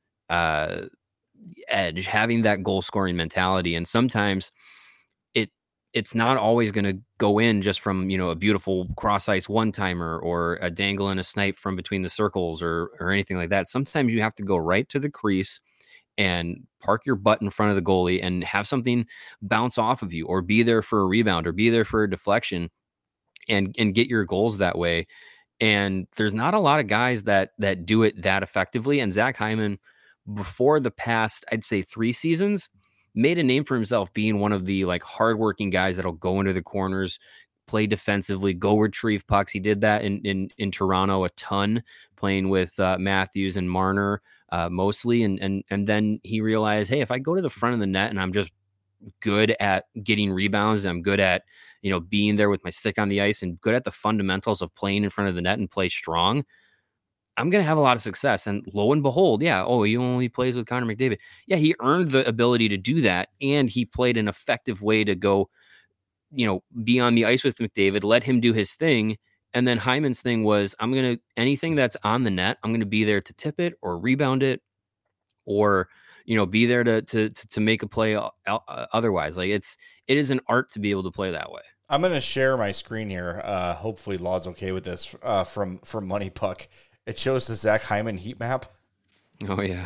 edge, having that goal scoring mentality. And sometimes it's not always going to go in just from, a beautiful cross ice one-timer or a dangle and a snipe from between the circles or anything like that. Sometimes you have to go right to the crease and park your butt in front of the goalie and have something bounce off of you, or be there for a rebound, or be there for a deflection, and get your goals that way. And there's not a lot of guys that do it that effectively. And Zach Hyman, before the past, I'd say 3 seasons, made a name for himself being one of the like hardworking guys that'll go into the corners, play defensively, go retrieve pucks. He did that in Toronto a ton, playing with Matthews and Marner mostly. And then he realized, hey, if I go to the front of the net and I'm just good at getting rebounds, and I'm good at, being there with my stick on the ice, and good at the fundamentals of playing in front of the net and play strong, I'm going to have a lot of success. And lo and behold, he only plays with Connor McDavid. Yeah, he earned the ability to do that, and he played an effective way to go, be on the ice with McDavid, let him do his thing. And then Hyman's thing was, anything that's on the net, I'm going to be there to tip it or rebound it, or, be there to make a play otherwise. Like it is an art to be able to play that way. I'm going to share my screen here. Hopefully Law's okay with this from Money Puck. It shows the Zach Hyman heat map. Oh yeah.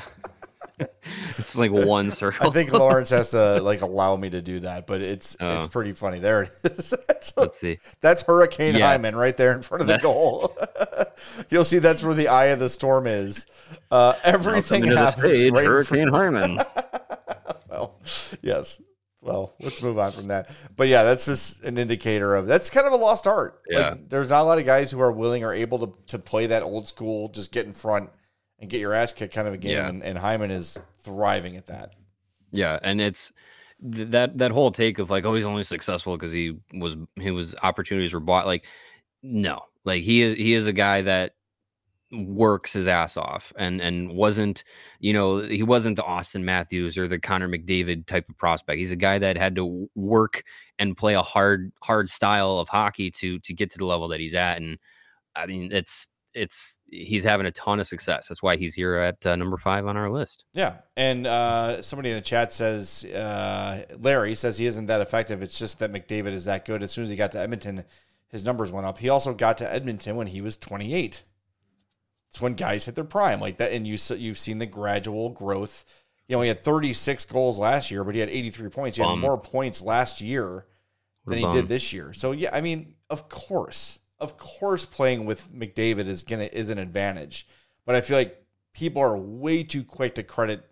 It's like one circle. I think Lawrence has to allow me to do that, but it's pretty funny. There it is. Let's see. That's Hurricane Hyman right there in front of the goal. You'll see that's where the eye of the storm is. Everything happens. Right Hurricane Hyman. Well, yes. Well, let's move on from that. But yeah, that's just an indicator of that's kind of a lost art. Yeah. There's not a lot of guys who are willing or able to play that old school, just get in front and get your ass kicked kind of a game. And Hyman is thriving at that. Yeah. And it's that whole take of he's only successful because his opportunities were bought. Like, no, he is a guy that works his ass off and wasn't, he wasn't the Austin Matthews or the Connor McDavid type of prospect. He's a guy that had to work and play a hard style of hockey to get to the level that he's at. And I mean, he's having a ton of success. That's why he's here at number 5 on our list. Yeah. And somebody in the chat says, Larry says he isn't that effective. It's just that McDavid is that good. As soon as he got to Edmonton, his numbers went up. He also got to Edmonton when he was 28. It's when guys hit their prime like that. And you've seen the gradual growth. He had 36 goals last year, but he had 83 points. He had more points last year than he did this year. So yeah, I mean, of course, playing with McDavid is an advantage, but I feel like people are way too quick to credit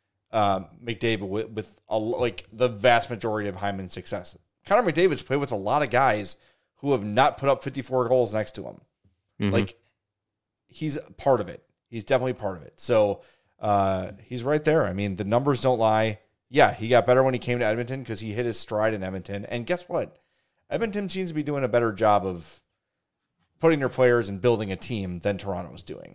McDavid with the vast majority of Hyman's success. Connor McDavid's played with a lot of guys who have not put up 54 goals next to him. Mm-hmm. He's part of it. He's definitely part of it. So he's right there. I mean, the numbers don't lie. Yeah, he got better when he came to Edmonton because he hit his stride in Edmonton. And guess what? Edmonton seems to be doing a better job of putting their players and building a team than Toronto was doing.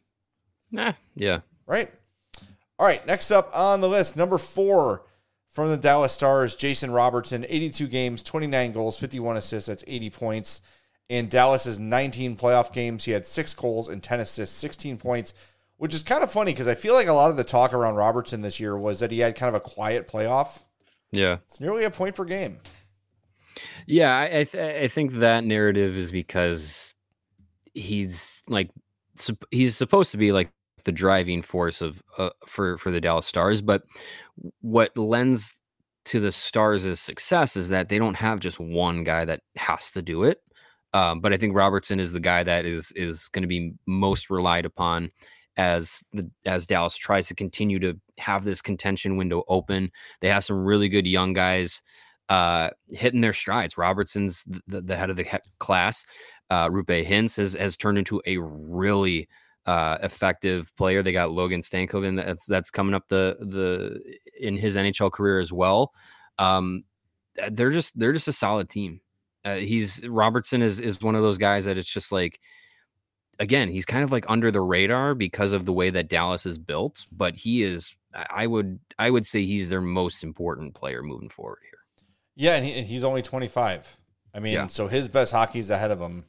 Yeah. Right? All right, next up on the list, number 4 from the Dallas Stars, Jason Robertson, 82 games, 29 goals, 51 assists. That's 80 points. In Dallas's 19 playoff games, he had 6 goals and 10 assists, 16 points, which is kind of funny because I feel like a lot of the talk around Robertson this year was that he had kind of a quiet playoff. Yeah. It's nearly a point per game. Yeah, I think that narrative is because he's supposed to be the driving force of for the Dallas Stars, but what lends to the Stars' success is that they don't have just one guy that has to do it. But I think Robertson is the guy that is going to be most relied upon as Dallas tries to continue to have this contention window open. They have some really good young guys hitting their strides. Robertson's the head of the class. Roope Hintz has turned into a really effective player. They got Logan Stankoven that's coming up in his NHL career as well. They're just a solid team. Robertson is one of those guys that it's just again, he's kind of under the radar because of the way that Dallas is built, but he is, I would say he's their most important player moving forward here. Yeah. And he's only 25. I mean, So his best hockey's ahead of him.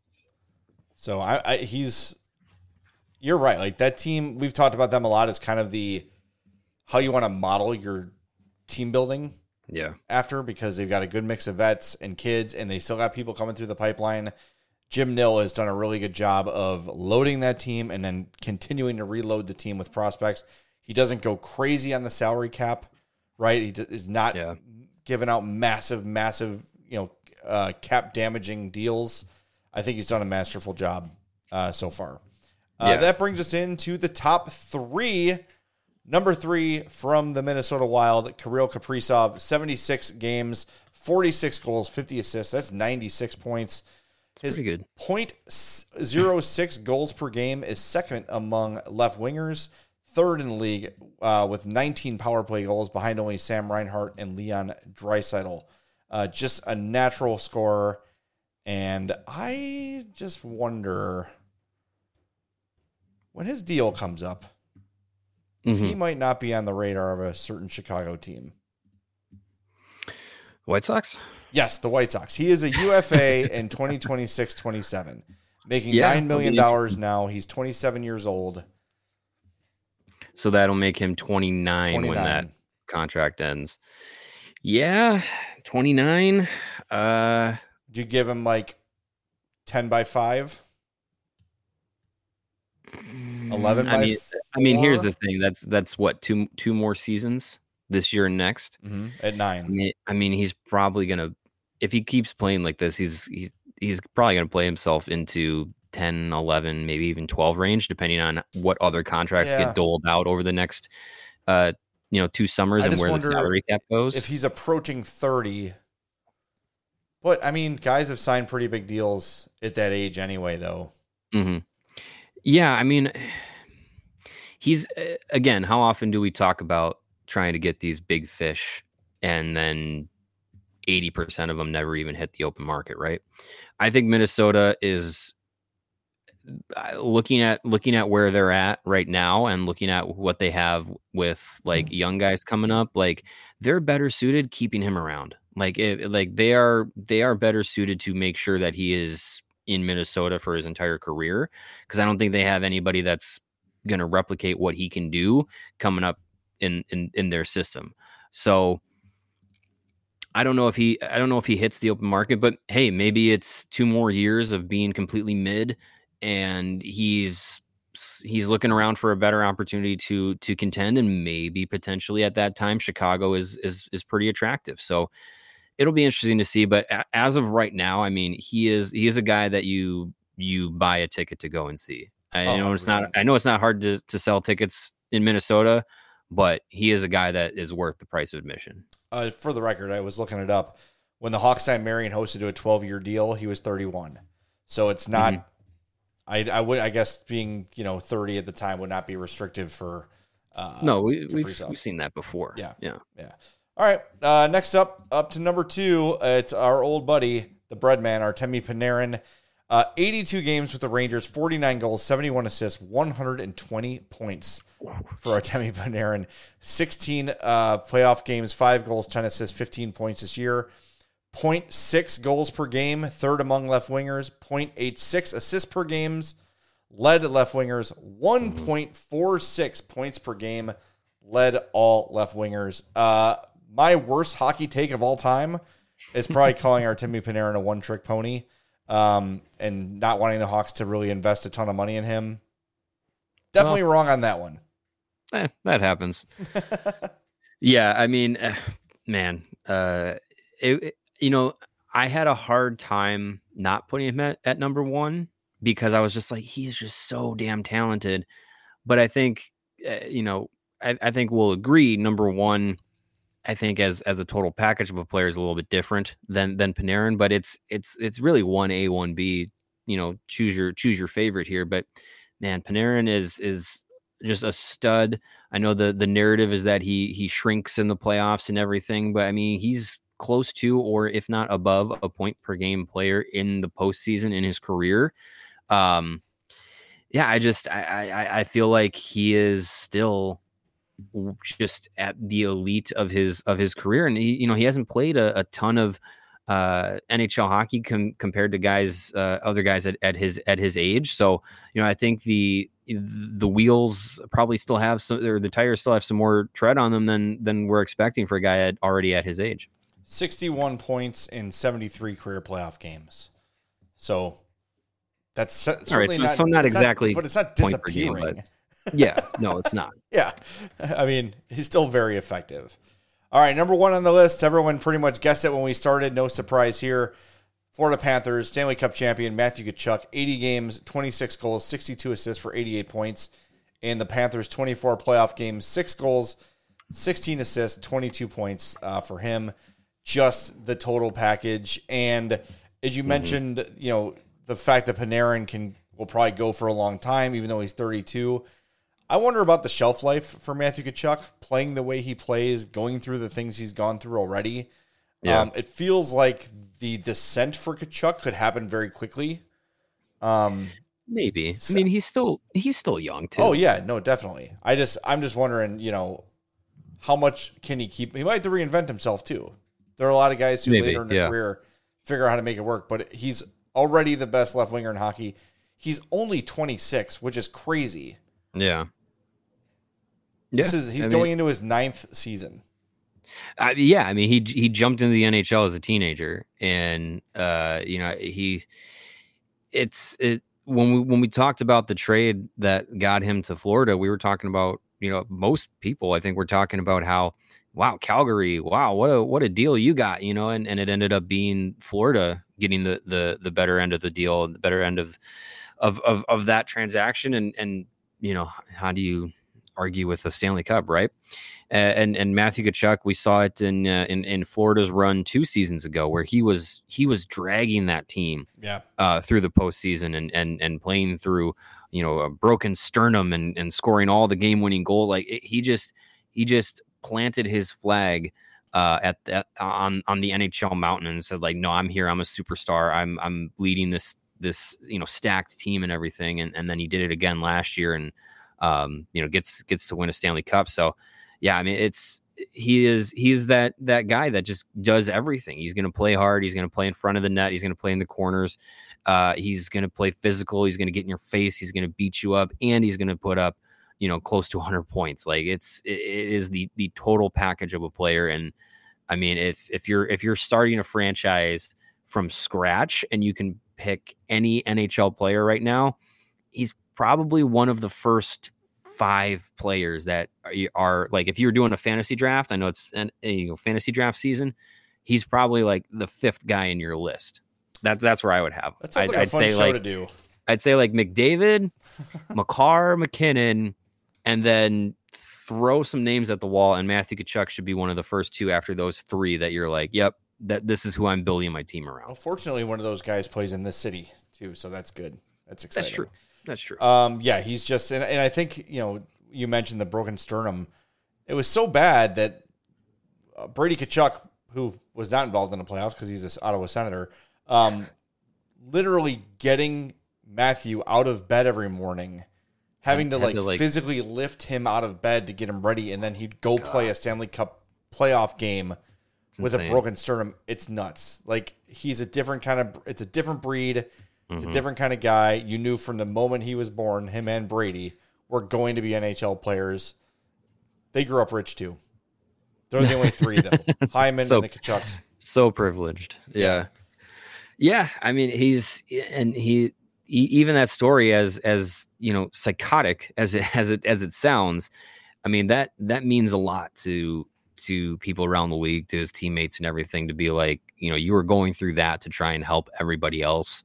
So you're right. That team, we've talked about them a lot. It's kind of how you want to model your team building. Yeah. After, because they've got a good mix of vets and kids, and they still got people coming through the pipeline. Jim Nill has done a really good job of loading that team and then continuing to reload the team with prospects. He doesn't go crazy on the salary cap, right? He is not giving out massive, cap damaging deals. I think he's done a masterful job so far. That brings us into the top 3. Number 3 from the Minnesota Wild, Kirill Kaprizov, 76 games, 46 goals, 50 assists. That's 96 points. His pretty good. .06 goals per game is second among left wingers, third in the league with 19 power play goals behind only Sam Reinhart and Leon Draisaitl. Just a natural scorer. And I just wonder when his deal comes up, he might not be on the radar of a certain Chicago team. White Sox? Yes, the White Sox. He is a UFA in 2026-27, making $9 million now. He's 27 years old. So that'll make him 29 when that contract ends. Yeah, 29. Do you give him like 10 by 5? 11 by 4? I mean, here's the thing. That's what, two more seasons this year and next. Mm-hmm. At 9. I mean, he's probably gonna, if he keeps playing like this, he's probably gonna play himself into 10, 11, maybe even 12 range, depending on what other contracts get doled out over the next 2 summers and where the salary cap goes. If he's approaching 30. But I mean, guys have signed pretty big deals at that age anyway, though. Mm-hmm. Yeah, I mean, he's, again, how often do we talk about trying to get these big fish and then 80% of them never even hit the open market, right? I think Minnesota is looking at where they're at right now and looking at what they have with like young guys coming up, like they're better suited keeping him around. They are better suited to make sure that he is in Minnesota for his entire career, because I don't think they have anybody that's going to replicate what he can do coming up in their system. So I don't know if he hits the open market, but hey, maybe it's 2 more years of being completely mid and he's looking around for a better opportunity to contend, and maybe potentially at that time Chicago is pretty attractive. So it'll be interesting to see, but as of right now, I mean, he is a guy that you buy a ticket to go and see. I know it's not hard to sell tickets in Minnesota, but he is a guy that is worth the price of admission. For the record, I was looking it up. When the Hawks signed Marion Hossa to a 12-year deal, he was 31. So it's not. Mm-hmm. I guess being 30 at the time would not be restrictive for. No, we've seen that before. Yeah. All right. Next up to number 2, it's our old buddy, the Breadman, Artemi Panarin. 82 games with the Rangers, 49 goals, 71 assists, 120 points for Artemi Panarin. 16 playoff games, 5 goals, 10 assists, 15 points this year. 0.6 goals per game, third among left wingers. 0.86 assists per games, led left wingers. 1.46 points per game, led all left wingers. My worst hockey take of all time is probably calling Artemi Panarin a one-trick pony, and not wanting the Hawks to really invest a ton of money in him. Definitely wrong on that one. That happens. Yeah, I mean, man, I had a hard time not putting him at number 1 because I was just like, he is just so damn talented. But I think, I think we'll agree, number 1, I think as a total package of a player is a little bit different than Panarin, but it's really 1A, 1B, choose your favorite here. But man, Panarin is just a stud. I know the narrative is that he shrinks in the playoffs and everything, but I mean, he's close to, or if not above, a point per game player in the postseason in his career. I feel like he is still just at the elite of his career, and he hasn't played a ton of NHL hockey compared to other guys at his age. So I think the wheels probably still have some, or the tires still have some more tread on them than we're expecting for a guy already at his age. 61 points in 73 career playoff games. So that's certainly not exactly, but it's not disappearing. Game, but yeah, no, it's not. Yeah. I mean, he's still very effective. All right, number 1 on the list. Everyone pretty much guessed it when we started. No surprise here. Florida Panthers, Stanley Cup champion, Matthew Tkachuk, 80 games, 26 goals, 62 assists for 88 points. In the Panthers' 24 playoff games, 6 goals, 16 assists, 22 points for him. Just the total package. And as you mentioned, the fact that Panarin will probably go for a long time, even though he's 32. I wonder about the shelf life for Matthew Tkachuk, playing the way he plays, going through the things he's gone through already. Yeah. It feels like the descent for Tkachuk could happen very quickly. Maybe. I mean, he's still young too. Oh yeah, no, definitely. I'm just wondering, how much can he keep? He might have to reinvent himself too. There are a lot of guys who later in their career figure out how to make it work, but he's already the best left winger in hockey. He's only 26, which is crazy. Yeah. He's going into his 9th season. Yeah, I mean, he jumped into the NHL as a teenager, and when we talked about the trade that got him to Florida, we were talking about, most people, I think, we're talking about how, wow, Calgary, wow, what a deal you got, and it ended up being Florida getting the better end of the deal, the better end of that transaction, and how do you argue with the Stanley Cup, right? And Matthew Tkachuk, we saw it in Florida's run 2 seasons ago, where he was dragging that team through the postseason and playing through a broken sternum and scoring all the game-winning goals. Like he just planted his flag on the NHL mountain and said, like, no, I'm here, I'm a superstar, I'm leading this stacked team and everything, and then he did it again last year and gets to win a Stanley Cup. So yeah, I mean, he is that guy that just does everything. He's going to play hard. He's going to play in front of the net. He's going to play in the corners. He's going to play physical. He's going to get in your face. He's going to beat you up, and he's going to put up, close to 100 points. Like it is the total package of a player. And I mean, if you're starting a franchise from scratch and you can pick any NHL player right now, he's probably one of the first 5 players that are like, if you're doing a fantasy draft, I know it's fantasy draft season, he's probably like the 5th guy in your list. That's where I would have. That sounds like a fun show to do. I'd say like McDavid, Makar, McKinnon, and then throw some names at the wall, and Matthew Tkachuk should be one of the first 2 after those 3 that you're like, yep, that this is who I'm building my team around. Well, fortunately, one of those guys plays in this city too, so that's good. That's exciting. That's true. Yeah, he's just, and I think, you mentioned the broken sternum. It was so bad that Brady Tkachuk, who was not involved in the playoffs because he's this Ottawa Senator, literally getting Matthew out of bed every morning, having to physically lift him out of bed to get him ready, and then he'd go play a Stanley Cup playoff game with a broken sternum. It's nuts. Like, he's a different it's a different breed. It's a different kind of guy. You knew from the moment he was born, him and Brady were going to be NHL players. They grew up rich too. They're the only 3 though. Hyman and the Tkachuks. So privileged. Yeah. I mean, he even that story, as psychotic as it sounds. I mean, that means a lot to people around the league, to his teammates and everything, to be like, you were going through that to try and help everybody else.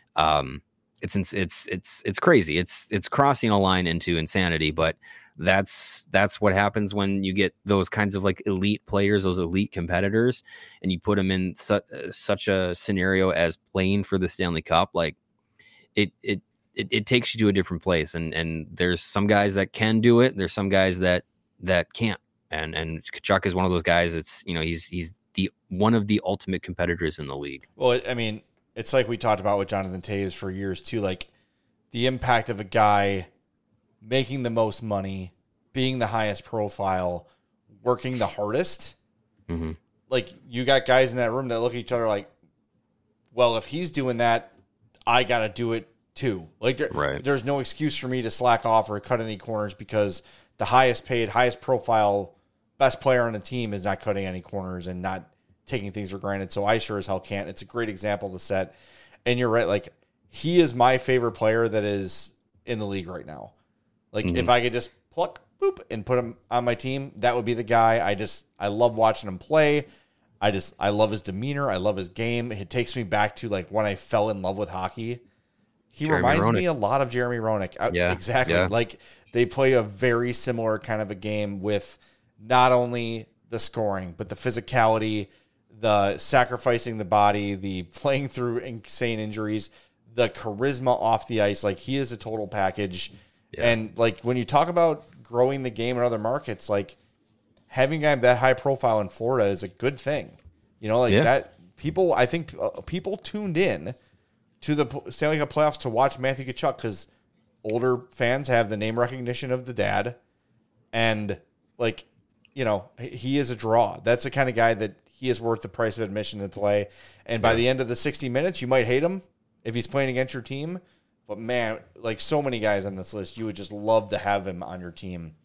It's crazy. It's crossing a line into insanity, but that's what happens when you get those kinds of like elite players, those elite competitors, and you put them in such a scenario as playing for the Stanley Cup. Like it takes you to a different place, and there's some guys that can do it. There's some guys that can't. And Tkachuk is one of those guys. It's, he's the one of the ultimate competitors in the league. Well, I mean, it's like we talked about with Jonathan Toews for years too, like the impact of a guy making the most money, being the highest profile, working the hardest. Mm-hmm. Like, you got guys in that room that look at each other like, well, if he's doing that, I got to do it too. Like, there's no excuse for me to slack off or cut any corners, because the highest paid, highest profile, best player on the team is not cutting any corners and not taking things for granted. So I sure as hell can't. It's a great example to set. And you're right. Like, he is my favorite player that is in the league right now. Like, if I could just pluck, boop, and put him on my team, that would be the guy. I love watching him play. I love his demeanor. I love his game. It takes me back to like when I fell in love with hockey. He reminds me a lot of Jeremy Roenick. Yeah, exactly. Yeah. Like, they play a very similar kind of a game with not only the scoring, but the physicality, the sacrificing the body, the playing through insane injuries, the charisma off the ice. Like, he is a total package. Yeah. And like, when you talk about growing the game in other markets, like, having a guy that high profile in Florida is a good thing. That people, I think people tuned in to the Stanley Cup playoffs to watch Matthew Tkachuk because older fans have the name recognition of the dad. And like, he is a draw. That's the kind of guy that he is worth the price of admission to play. And by the end of the 60 minutes, you might hate him if he's playing against your team. But man, like, so many guys on this list, you would just love to have him on your team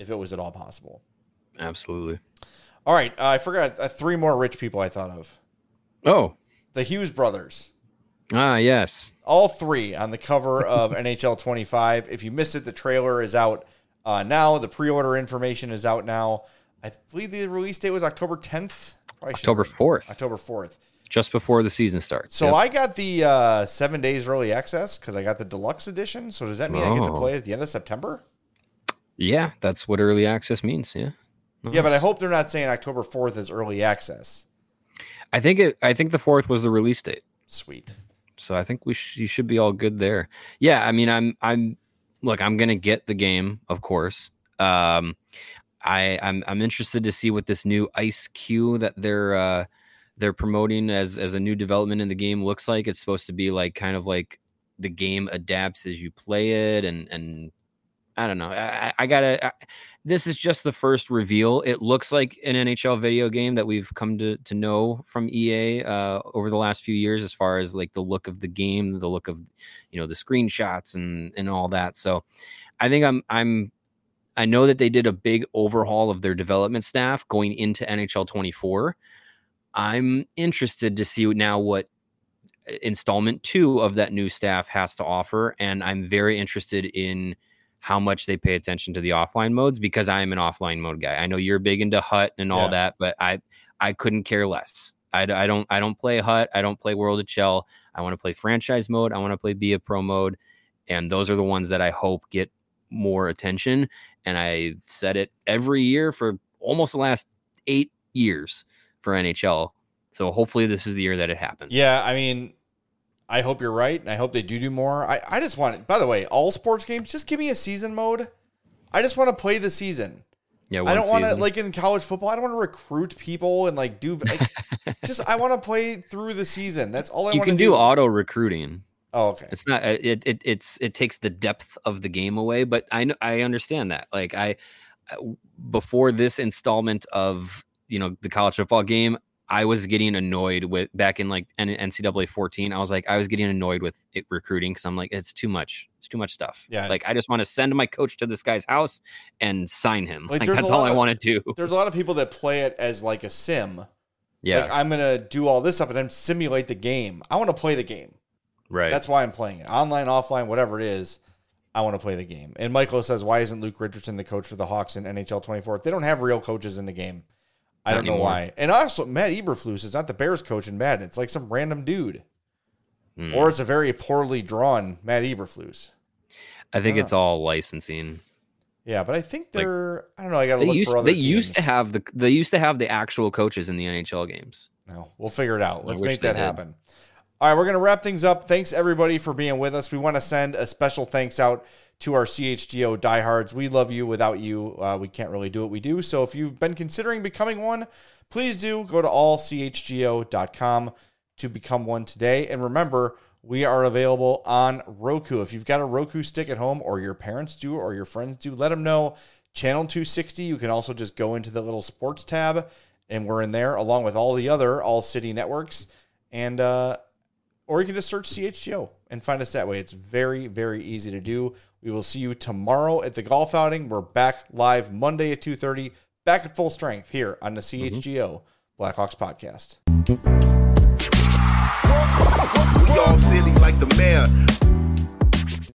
if it was at all possible. Absolutely. All right. I forgot 3 more rich people I thought of. Oh. The Hughes brothers. Ah, yes. All 3 on the cover of NHL 25. If you missed it, the trailer is out now. The pre-order information is out now. I believe the release date was October 10th. October 4th. October 4th. Just before the season starts. So I got the 7 days early access because I got the deluxe edition. So does that mean I get to play it at the end of September? Yeah, that's what early access means. Yeah. Nice. Yeah, but I hope they're not saying October 4th is early access. I think the 4th was the release date. Sweet. So I think you should be all good there. Yeah, I mean, I'm gonna get the game, of course. I'm interested to see what this new Ice Q that they're promoting as a new development in the game looks like. It's supposed to be like kind of like the game adapts as you play it, and I don't know. This is just the first reveal. It looks like an NHL video game that we've come to know from EA over the last few years, as far as like the look of the game, the look of, the screenshots and all that. So I think I know that they did a big overhaul of their development staff going into NHL 24. I'm interested to see now what installment 2 of that new staff has to offer. And I'm very interested in how much they pay attention to the offline modes, because I am an offline mode guy. I know you're big into HUT and all that, but I couldn't care less. I don't play HUT. I don't play World of Chell. I want to play franchise mode. I want to play Be a Pro mode. And those are the ones that I hope get more attention. And I said it every year for almost the last 8 years for NHL. So hopefully this is the year that it happens. Yeah, I mean, I hope you're right, and I hope they do more. I just want, by the way, all sports games, just give me a season mode. I just want to play the season. Yeah, I don't want to, like in college football, I don't want to recruit people and like do, just, I want to play through the season. That's all I want to do. You can do auto recruiting. Oh, okay. It's not, it takes the depth of the game away, but I understand that. Like before this installment of, the college football game, I was getting annoyed with back in like NCAA 14. I was getting annoyed with it recruiting because I'm like, it's too much. It's too much stuff. Yeah. Like I just want to send my coach to this guy's house and sign him. Like that's all I want to do. There's a lot of people that play it as like a sim. Yeah. Like I'm going to do all this stuff and then simulate the game. I want to play the game. Right. That's why I'm playing it. Online, offline, whatever it is. I want to play the game. And Michael says, why isn't Luke Richardson the coach for the Hawks in NHL 24? They don't have real coaches in the game. I don't know why. And also, Matt Eberflus is not the Bears coach in Madden. It's like some random dude. Or it's a very poorly drawn Matt Eberflus. I think it's all licensing. Yeah, but I think I don't know. I got to look for other teams. They used to have the actual coaches in the NHL games. No, we'll figure it out. Let's make that happen. All right, we're going to wrap things up. Thanks, everybody, for being with us. We want to send a special thanks out to our CHGO diehards. We love you. Without you, we can't really do what we do. So if you've been considering becoming one, please do go to allchgo.com to become one today. And remember, we are available on Roku. If you've got a Roku stick at home, or your parents do, or your friends do, let them know. Channel 260. You can also just go into the little sports tab, and we're in there along with all the other All City networks. And or you can just search CHGO and find us that way. It's very, very easy to do. We will see you tomorrow at the golf outing. We're back live Monday at 2:30, back at full strength here on the CHGO Blackhawks podcast. We all silly like the mayor.